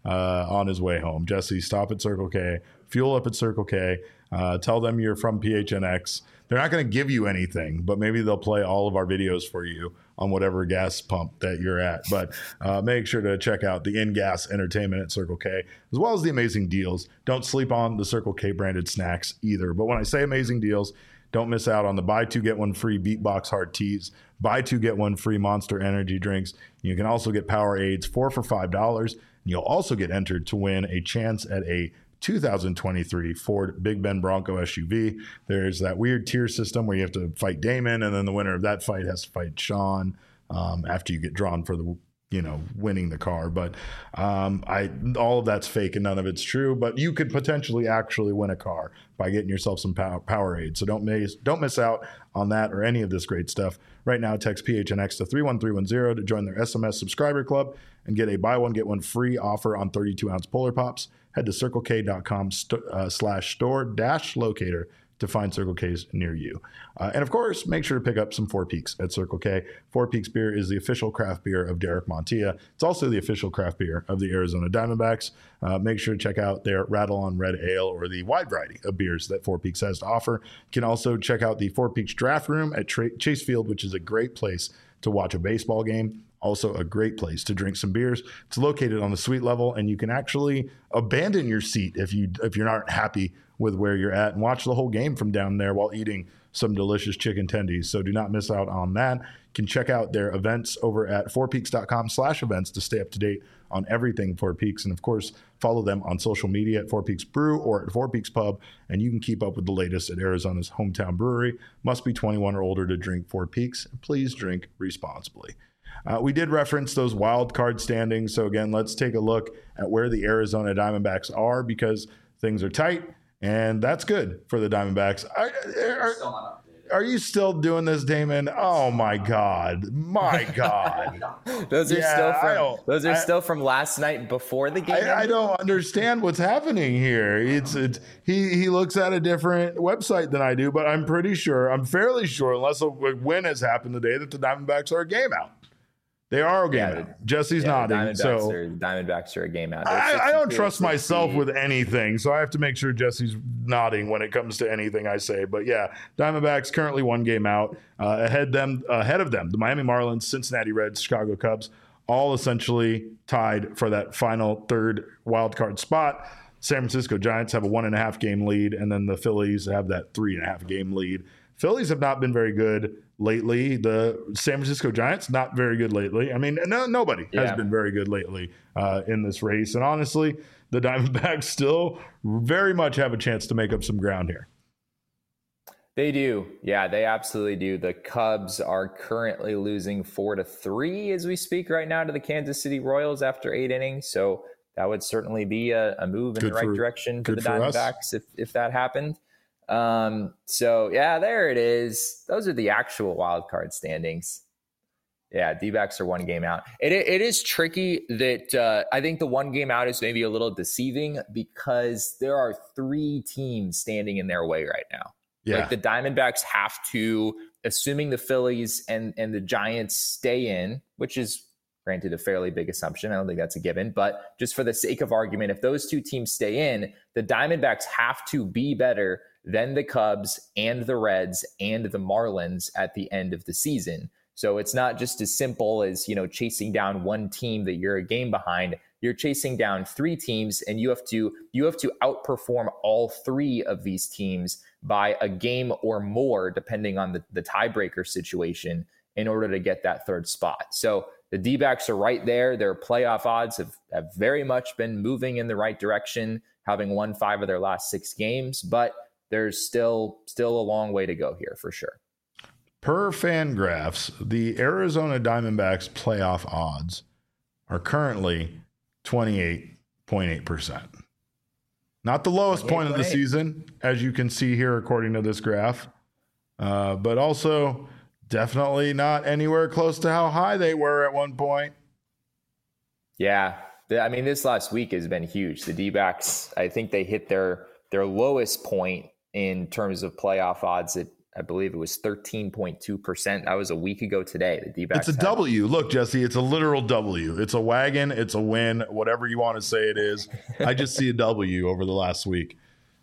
uh, on his way home. Jesse, stop at Circle K, fuel up at Circle K, uh, tell them you're from P H N X. They're not going to give you anything, but maybe they'll play all of our videos for you on whatever gas pump that you're at. But uh, make sure to check out the in-gas entertainment at Circle K, as well as the amazing deals. Don't sleep on the Circle K branded snacks either. But when I say amazing deals, don't miss out on the buy two, get one free Beatbox Hard Teas, buy two, get one free Monster Energy drinks. You can also get Powerades, four for five dollars. And you'll also get entered to win a chance at a two thousand twenty-three Ford Big Ben Bronco S U V. There's that weird tier system where you have to fight Damon, and then the winner of that fight has to fight Sean um, after you get drawn for the, you know, winning the car. But um, I all of that's fake and none of it's true. But you could potentially actually win a car by getting yourself some power, Powerade. So don't miss don't miss out on that or any of this great stuff. Right now, text P H N X to three one three one zero to join their S M S subscriber club and get a buy one get one free offer on thirty-two ounce Polar Pops. Head to circle k dot com st- uh, slash store dash locator to find Circle K's near you. Uh, and of course, make sure to pick up some Four Peaks at Circle K. Four Peaks beer is the official craft beer of Derek Montilla. It's also the official craft beer of the Arizona Diamondbacks. Uh, make sure to check out their Rattle on Red Ale or the wide variety of beers that Four Peaks has to offer. You can also check out the Four Peaks Draft Room at Tra- Chase Field, which is a great place to watch a baseball game. Also a great place to drink some beers. It's located on the suite level, and you can actually abandon your seat if you if you're not happy with where you're at and watch the whole game from down there while eating some delicious chicken tendies. So do not miss out on that. You can check out their events over at four peaks dot com slash events to stay up to date on everything Four Peaks. And of course, follow them on social media at Four Peaks Brew or at Four Peaks Pub, and you can keep up with the latest at Arizona's hometown brewery. Must be twenty-one or older to drink Four Peaks. Please drink responsibly. Uh, we did reference those wild card standings. So again, let's take a look at where the Arizona Diamondbacks are, because things are tight, and that's good for the Diamondbacks. Are, are, are you still doing this, Damon? Oh my God, my God! those are yeah, still from those are I, still from last night before the game. I, I don't understand what's happening here. It's it's he he looks at a different website than I do, but I'm pretty sure, I'm fairly sure, unless a win has happened today, that the Diamondbacks are a game out. They are a game yeah, out. Jesse's yeah, nodding. Diamondbacks so are, Diamondbacks are a game out. I, I don't trust myself with anything, so I have to make sure Jesse's nodding when it comes to anything I say. But yeah, Diamondbacks currently one game out. Uh, ahead them ahead of them, the Miami Marlins, Cincinnati Reds, Chicago Cubs, all essentially tied for that final third wild card spot. San Francisco Giants have a one and a half game lead, and then the Phillies have that three and a half game lead. Phillies have not been very good lately. The San Francisco Giants, not very good lately. I mean, no, nobody yeah. has been very good lately uh, in this race. And honestly, the Diamondbacks still very much have a chance to make up some ground here. They do. Yeah, they absolutely do. The Cubs are currently losing four to three as we speak right now to the Kansas City Royals after eight innings. So that would certainly be a, a move in good the right for, direction for the Diamondbacks if, if that happened. Um, so yeah, there it is. Those are the actual wild card standings. Yeah. D-backs are one game out. It, it is tricky that, uh, I think the one game out is maybe a little deceiving because there are three teams standing in their way right now. Yeah. Like the Diamondbacks have to, assuming the Phillies and, and the Giants stay in, which is granted a fairly big assumption. I don't think that's a given, but just for the sake of argument, if those two teams stay in, the Diamondbacks have to be better than the Cubs and the Reds and the Marlins at the end of the season. So it's not just as simple as, you know, chasing down one team that you're a game behind. You're chasing down three teams, and you have to you have to outperform all three of these teams by a game or more, depending on the, the tiebreaker situation, in order to get that third spot. So the D-backs are right there. Their playoff odds have, have very much been moving in the right direction, having won five of their last six games, but there's still still a long way to go here for sure. Per Fangraphs, the Arizona Diamondbacks playoff odds are currently twenty-eight point eight percent. Not the lowest point of the season, as you can see here according to this graph, uh, but also definitely not anywhere close to how high they were at one point. Yeah, I mean, this last week has been huge. The D-backs, I think they hit their their lowest point in terms of playoff odds at I believe it was thirteen point two percent. That was a week ago today. The D-backs It's a had- W. Look, Jesse, it's a literal W. It's a wagon. It's a win. Whatever you want to say it is. I just see a W over the last week.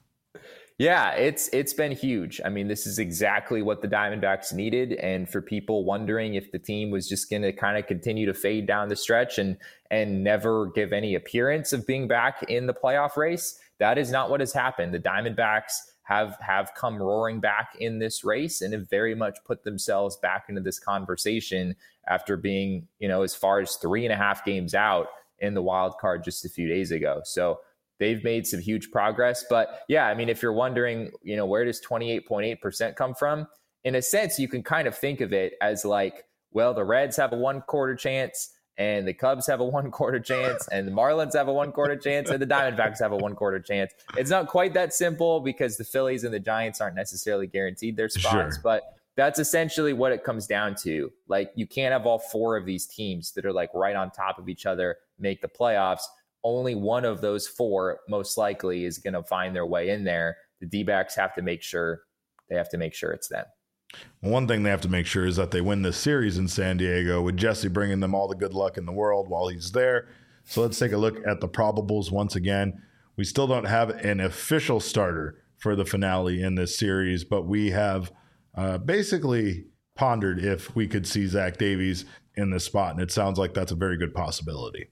Yeah, it's it's been huge. I mean, this is exactly what the Diamondbacks needed. And for people wondering if the team was just going to kind of continue to fade down the stretch and and never give any appearance of being back in the playoff race, that is not what has happened. The Diamondbacks have have come roaring back in this race and have very much put themselves back into this conversation after being, you know, as far as three and a half games out in the wild card just a few days ago. So they've made some huge progress. But yeah, I mean, if you're wondering, you know, where does twenty-eight point eight percent come from? In a sense, you can kind of think of it as like, well, the Reds have a one quarter chance and the Cubs have a one quarter chance and the Marlins have a one quarter chance and the Diamondbacks have a one quarter chance. It's not quite that simple because the Phillies and the Giants aren't necessarily guaranteed their spots, Sure. but that's essentially what it comes down to. Like, you can't have all four of these teams that are like right on top of each other make the playoffs. Only one of those four most likely is going to find their way in there. The D-backs have to make sure they have to make sure it's them. One thing they have to make sure is that they win this series in San Diego, with Jesse bringing them all the good luck in the world while he's there. So let's take a look at the probables once again. We still don't have an official starter for the finale in this series, but we have uh, basically pondered if we could see Zach Davies in this spot, and it sounds like that's a very good possibility.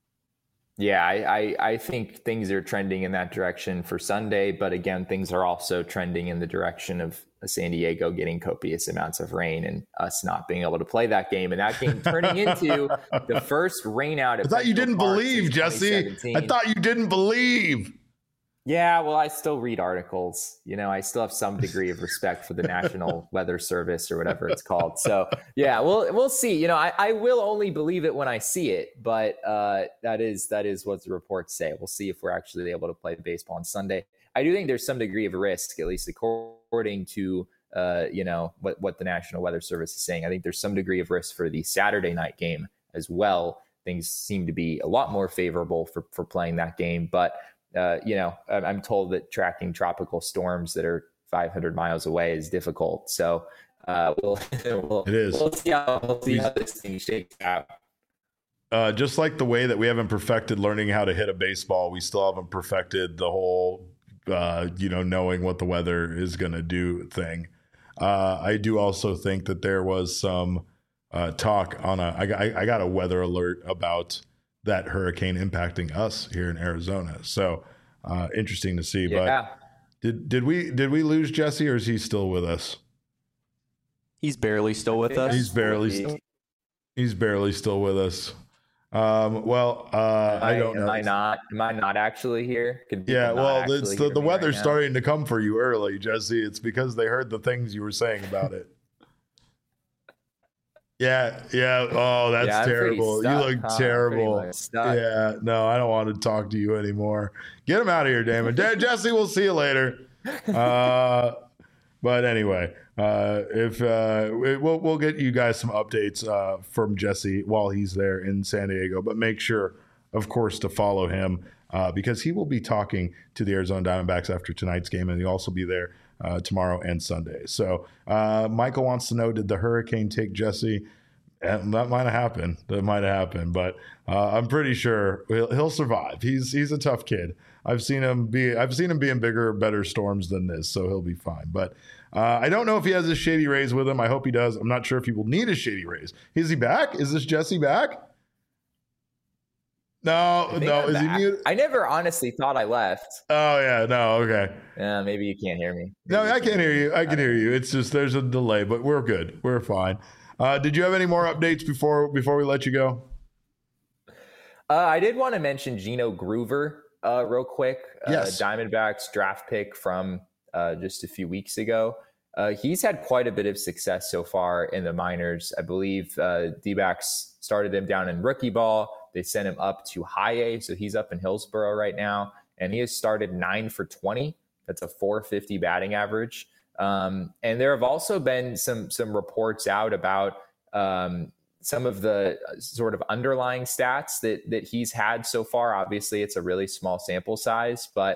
Yeah, I, I, I think things are trending in that direction for Sunday, but again, things are also trending in the direction of San Diego getting copious amounts of rain and us not being able to play that game, and that game turning into the first rain out. I thought you didn't believe, Jesse. I thought you didn't believe. Yeah, well, I still read articles. You know, I still have some degree of respect for the National Weather Service or whatever it's called. So, yeah, we'll we'll see. You know, I, I will only believe it when I see it, but uh, that is that is what the reports say. We'll see if we're actually able to play baseball on Sunday. I do think there's some degree of risk, at least according to uh, you know what what the National Weather Service is saying. I think there's some degree of risk for the Saturday night game as well. Things seem to be a lot more favorable for for playing that game, but. Uh, you know, I'm told that tracking tropical storms that are five hundred miles away is difficult. So uh, we'll, we'll, it is. We'll see how, we'll see how this thing shakes out. Uh, just like the way that we haven't perfected learning how to hit a baseball, we still haven't perfected the whole, uh, you know, knowing what the weather is going to do thing. Uh, I do also think that there was some uh, talk on a, I, I got a weather alert about that hurricane impacting us here in Arizona. So uh, interesting to see. Yeah. But did did we did we lose Jesse, or is he still with us? He's barely still with us. He's barely still, he's barely still with us. Um, well, uh, I, I don't know. Am I not? Am I not actually here? Yeah. Well, it's the, the weather's right starting to come for you early, Jesse. It's because they heard the things you were saying about it. Yeah, yeah. Oh, that's yeah, terrible. Stuck, you look huh? terrible. Yeah, no, I don't want to talk to you anymore. Get him out of here, Damon. Jesse, we'll see you later. Uh, but anyway, uh, if uh, we'll we'll get you guys some updates uh, from Jesse while he's there in San Diego. But make sure, of course, to follow him uh, because he will be talking to the Arizona Diamondbacks after tonight's game, and he'll also be there Uh, tomorrow and Sunday. So uh, Michael wants to know, did the hurricane take Jesse? And that might have happened. That might have happened, but uh, I'm pretty sure he'll, he'll survive. He's he's a tough kid. I've seen him be I've seen him be in bigger, better storms than this, so he'll be fine. But uh, I don't know if he has his Shady Rays with him. I hope he does. I'm not sure if he will need his Shady Rays. Is he back? Is this Jesse back? No, no. I'm Is back. he mute? I never honestly thought I left. Oh yeah, no, okay. Yeah, maybe you can't hear me. Maybe No, I can't hear you. I can hear you. It's just there's a delay, but we're good. We're fine. Uh, did you have any more updates before before we let you go? Uh, I did want to mention Gino Groover uh, real quick. Yes. Uh, Diamondbacks draft pick from uh, just a few weeks ago. Uh, he's had quite a bit of success so far in the minors. I believe uh, D-backs started him down in rookie ball. They sent him up to high A, so he's up in Hillsboro right now, and he has started nine for twenty. That's a four fifty batting average. Um, and there have also been some some reports out about um, some of the sort of underlying stats that that he's had so far. Obviously, it's a really small sample size, but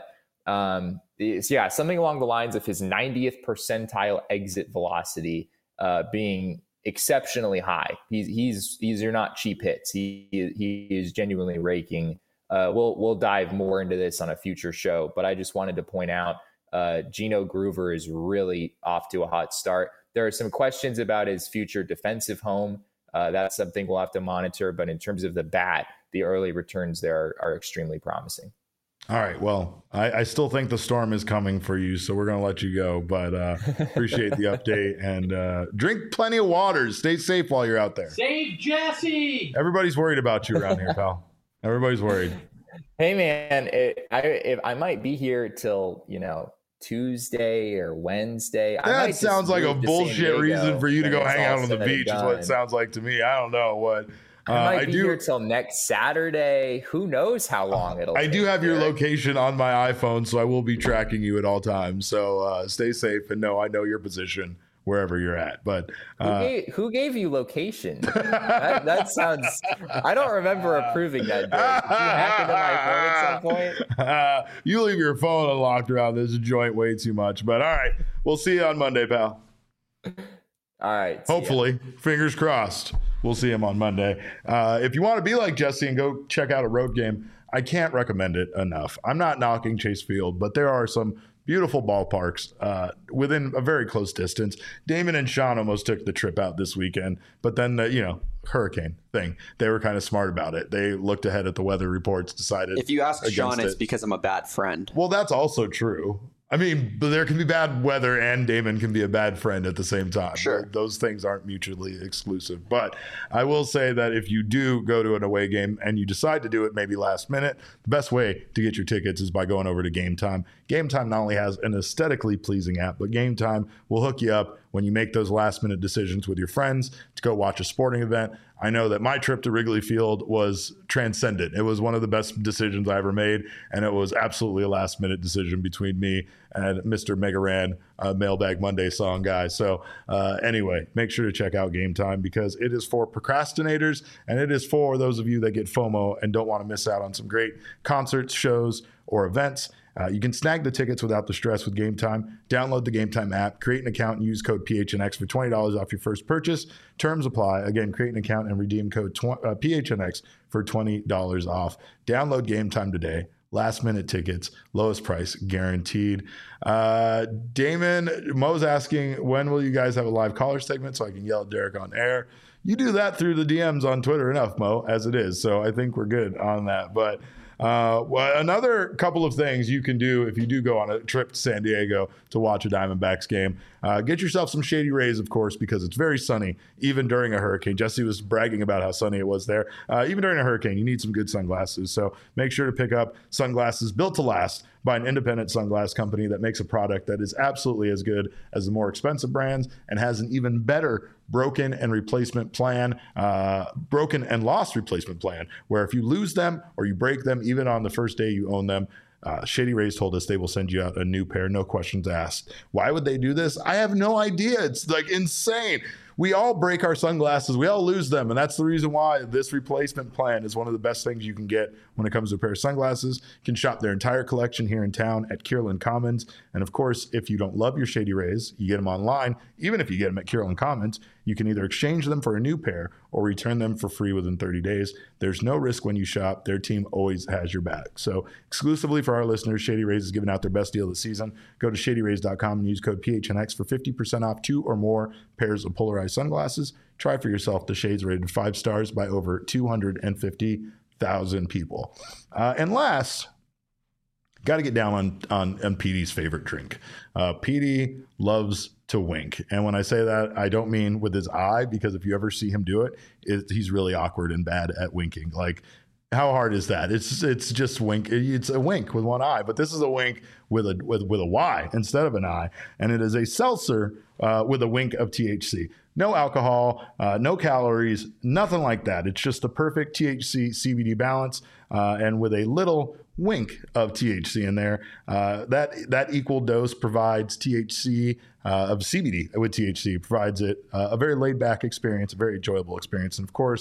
Um, so yeah, something along the lines of his ninetieth percentile exit velocity uh, being exceptionally high. He's he's these are not cheap hits. He he is genuinely raking. Uh, we'll we'll dive more into this on a future show, but I just wanted to point out uh, Gino Groover is really off to a hot start. There are some questions about his future defensive home. Uh, that's something we'll have to monitor. But in terms of the bat, the early returns there are, are extremely promising. All right. Well, I, I still think the storm is coming for you, so we're going to let you go. But uh, appreciate the update and uh, drink plenty of water. Stay safe while you're out there. Save Jesse. Everybody's worried about you around here, pal. Everybody's worried. Hey, man, it, I if I might be here till, you know, Tuesday or Wednesday. That sounds like a bullshit reason for you to go hang out on the beach is what it sounds like to me. I don't know what. I might uh, be I do, here till next Saturday. Who knows how long it'll I take. do have your Derek. location on my iPhone, so I will be tracking you at all times. So uh, stay safe and know I know your position wherever you're at. But uh, who, gave, who gave you location? that, that sounds. I don't remember approving that. Derek. Did you hack into my phone at some point? Uh, you leave your phone unlocked around this joint way too much. But all right, we'll see you on Monday, pal. All right. Hopefully, fingers crossed. We'll see him on Monday. Uh, if you want to be like Jesse and go check out a road game, I can't recommend it enough. I'm not knocking Chase Field, but there are some beautiful ballparks uh, within a very close distance. Damon and Sean almost took the trip out this weekend, but then the, you know, hurricane thing, they were kind of smart about it. They looked ahead at the weather reports, decided. If you ask Sean, it. it's because I'm a bad friend. Well, that's also true. I mean, but there can be bad weather and Damon can be a bad friend at the same time. Sure. Those things aren't mutually exclusive. But I will say that if you do go to an away game and you decide to do it maybe last minute, the best way to get your tickets is by going over to Game Time. Game Time not only has an aesthetically pleasing app, but Game Time will hook you up when you make those last minute decisions with your friends to go watch a sporting event. I know that my trip to Wrigley Field was transcendent. It was one of the best decisions I ever made, and it was absolutely a last minute decision between me and Mister Megaran, uh, Mailbag Monday song guy. So uh, anyway, make sure to check out Game Time because it is for procrastinators and it is for those of you that get FOMO and don't want to miss out on some great concerts, shows, or events. Uh, you can snag the tickets without the stress with Game Time. Download the Game Time app, create an account, and use code P H N X for twenty dollars off your first purchase. Terms apply. Again, create an account and redeem code tw- uh, P H N X for twenty dollars off. Download Game Time today. Last minute tickets, lowest price guaranteed. Uh, Damon, Mo's asking, when will you guys have a live caller segment so I can yell at Derek on air? You do that through the D Ms on Twitter enough, Mo, as it is. So I think we're good on that. But Uh, well, another couple of things you can do if you do go on a trip to San Diego to watch a Diamondbacks game. Uh, get yourself some Shady Rays, of course, because it's very sunny, even during a hurricane. Jesse was bragging about how sunny it was there. Uh, even during a hurricane, you need some good sunglasses. So make sure to pick up sunglasses built to last by an independent sunglass company that makes a product that is absolutely as good as the more expensive brands and has an even better broken and replacement plan, uh, broken and lost replacement plan, where if you lose them or you break them, even on the first day you own them, uh, Shady Rays told us they will send you out a new pair, no questions asked. Why would they do this? I have no idea. It's like insane. We all break our sunglasses. We all lose them. And that's the reason why this replacement plan is one of the best things you can get when it comes to a pair of sunglasses. You can shop their entire collection here in town at Kierland Commons. And of course, if you don't love your Shady Rays, you get them online. Even if you get them at Kierland Commons, you can either exchange them for a new pair or return them for free within thirty days. There's no risk when you shop. Their team always has your back. So exclusively for our listeners, Shady Rays is giving out their best deal this season. Go to shady rays dot com and use code P H N X for fifty percent off two or more pairs of polarized sunglasses. Try for yourself the shades rated five stars by over two hundred fifty thousand people. Uh, and last, got to get down on, on, on P D's favorite drink. Uh, P D loves to wink. And when I say that, I don't mean with his eye, because if you ever see him do it, it he's really awkward and bad at winking. Like, how hard is that? It's it's just wink. It's a wink with one eye, but this is a wink with a with with a Y instead of an I, and it is a seltzer uh, with a wink of T H C. No alcohol, uh, no calories, nothing like that. It's just the perfect T H C C B D balance, uh, and with a little wink of T H C in there. Uh, that that equal dose provides T H C uh, of C B D with T H C provides it uh, a very laid back experience, a very enjoyable experience, and of course.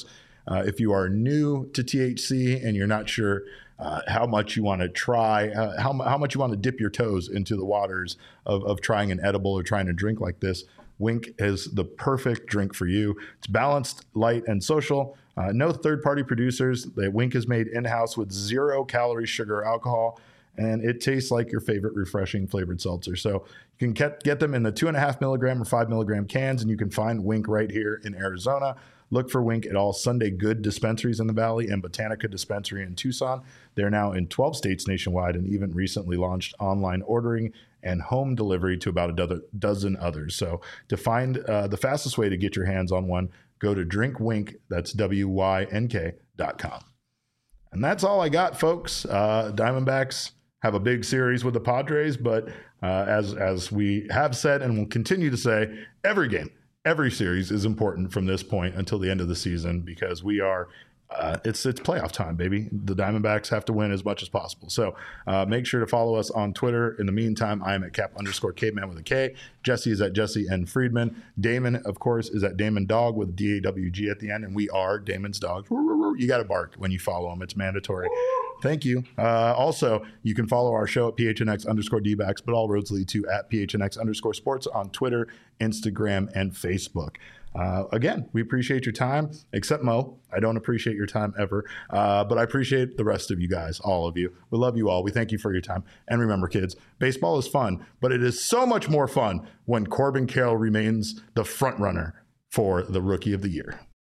Uh, if you are new to T H C and you're not sure uh, how much you want to try, uh, how, how much you want to dip your toes into the waters of, of trying an edible or trying to drink like this, Winc is the perfect drink for you. It's balanced, light, and social. Uh, no third-party producers. The Winc is made in-house with zero calorie, sugar, or alcohol, and it tastes like your favorite refreshing flavored seltzer. So you can get, get them in the two and a half milligram or five milligram cans, and you can find Winc right here in Arizona. Look for Winc at all Sunday Good dispensaries in the Valley and Botanica Dispensary in Tucson. They're now in twelve states nationwide and even recently launched online ordering and home delivery to about a do- dozen others. So to find uh, the fastest way to get your hands on one, go to drink winc, that's W Y N K dot com. And that's all I got, folks. Uh, Diamondbacks have a big series with the Padres, but uh, as as we have said and will continue to say, every game, every series is important from this point until the end of the season, because we are uh, it's it's playoff time, baby. The Diamondbacks have to win as much as possible. So uh, make sure to follow us on Twitter. In the meantime, I am at cap underscore caveman with a K. Jesse is at Jesse N. Friedman. Damon, of course, is at Damon Dog with D A W G at the end, and we are Damon's Dogs. You got to bark when you follow him. It's mandatory. Thank you. Uh, also, you can follow our show at P H N X underscore D-backs, but all roads lead to at P H N X underscore sports on Twitter, Instagram, and Facebook. Uh, again, we appreciate your time, except Mo. I don't appreciate your time ever, uh, but I appreciate the rest of you guys, all of you. We love you all. We thank you for your time. And remember, kids, baseball is fun, but it is so much more fun when Corbin Carroll remains the front runner for the Rookie of the Year.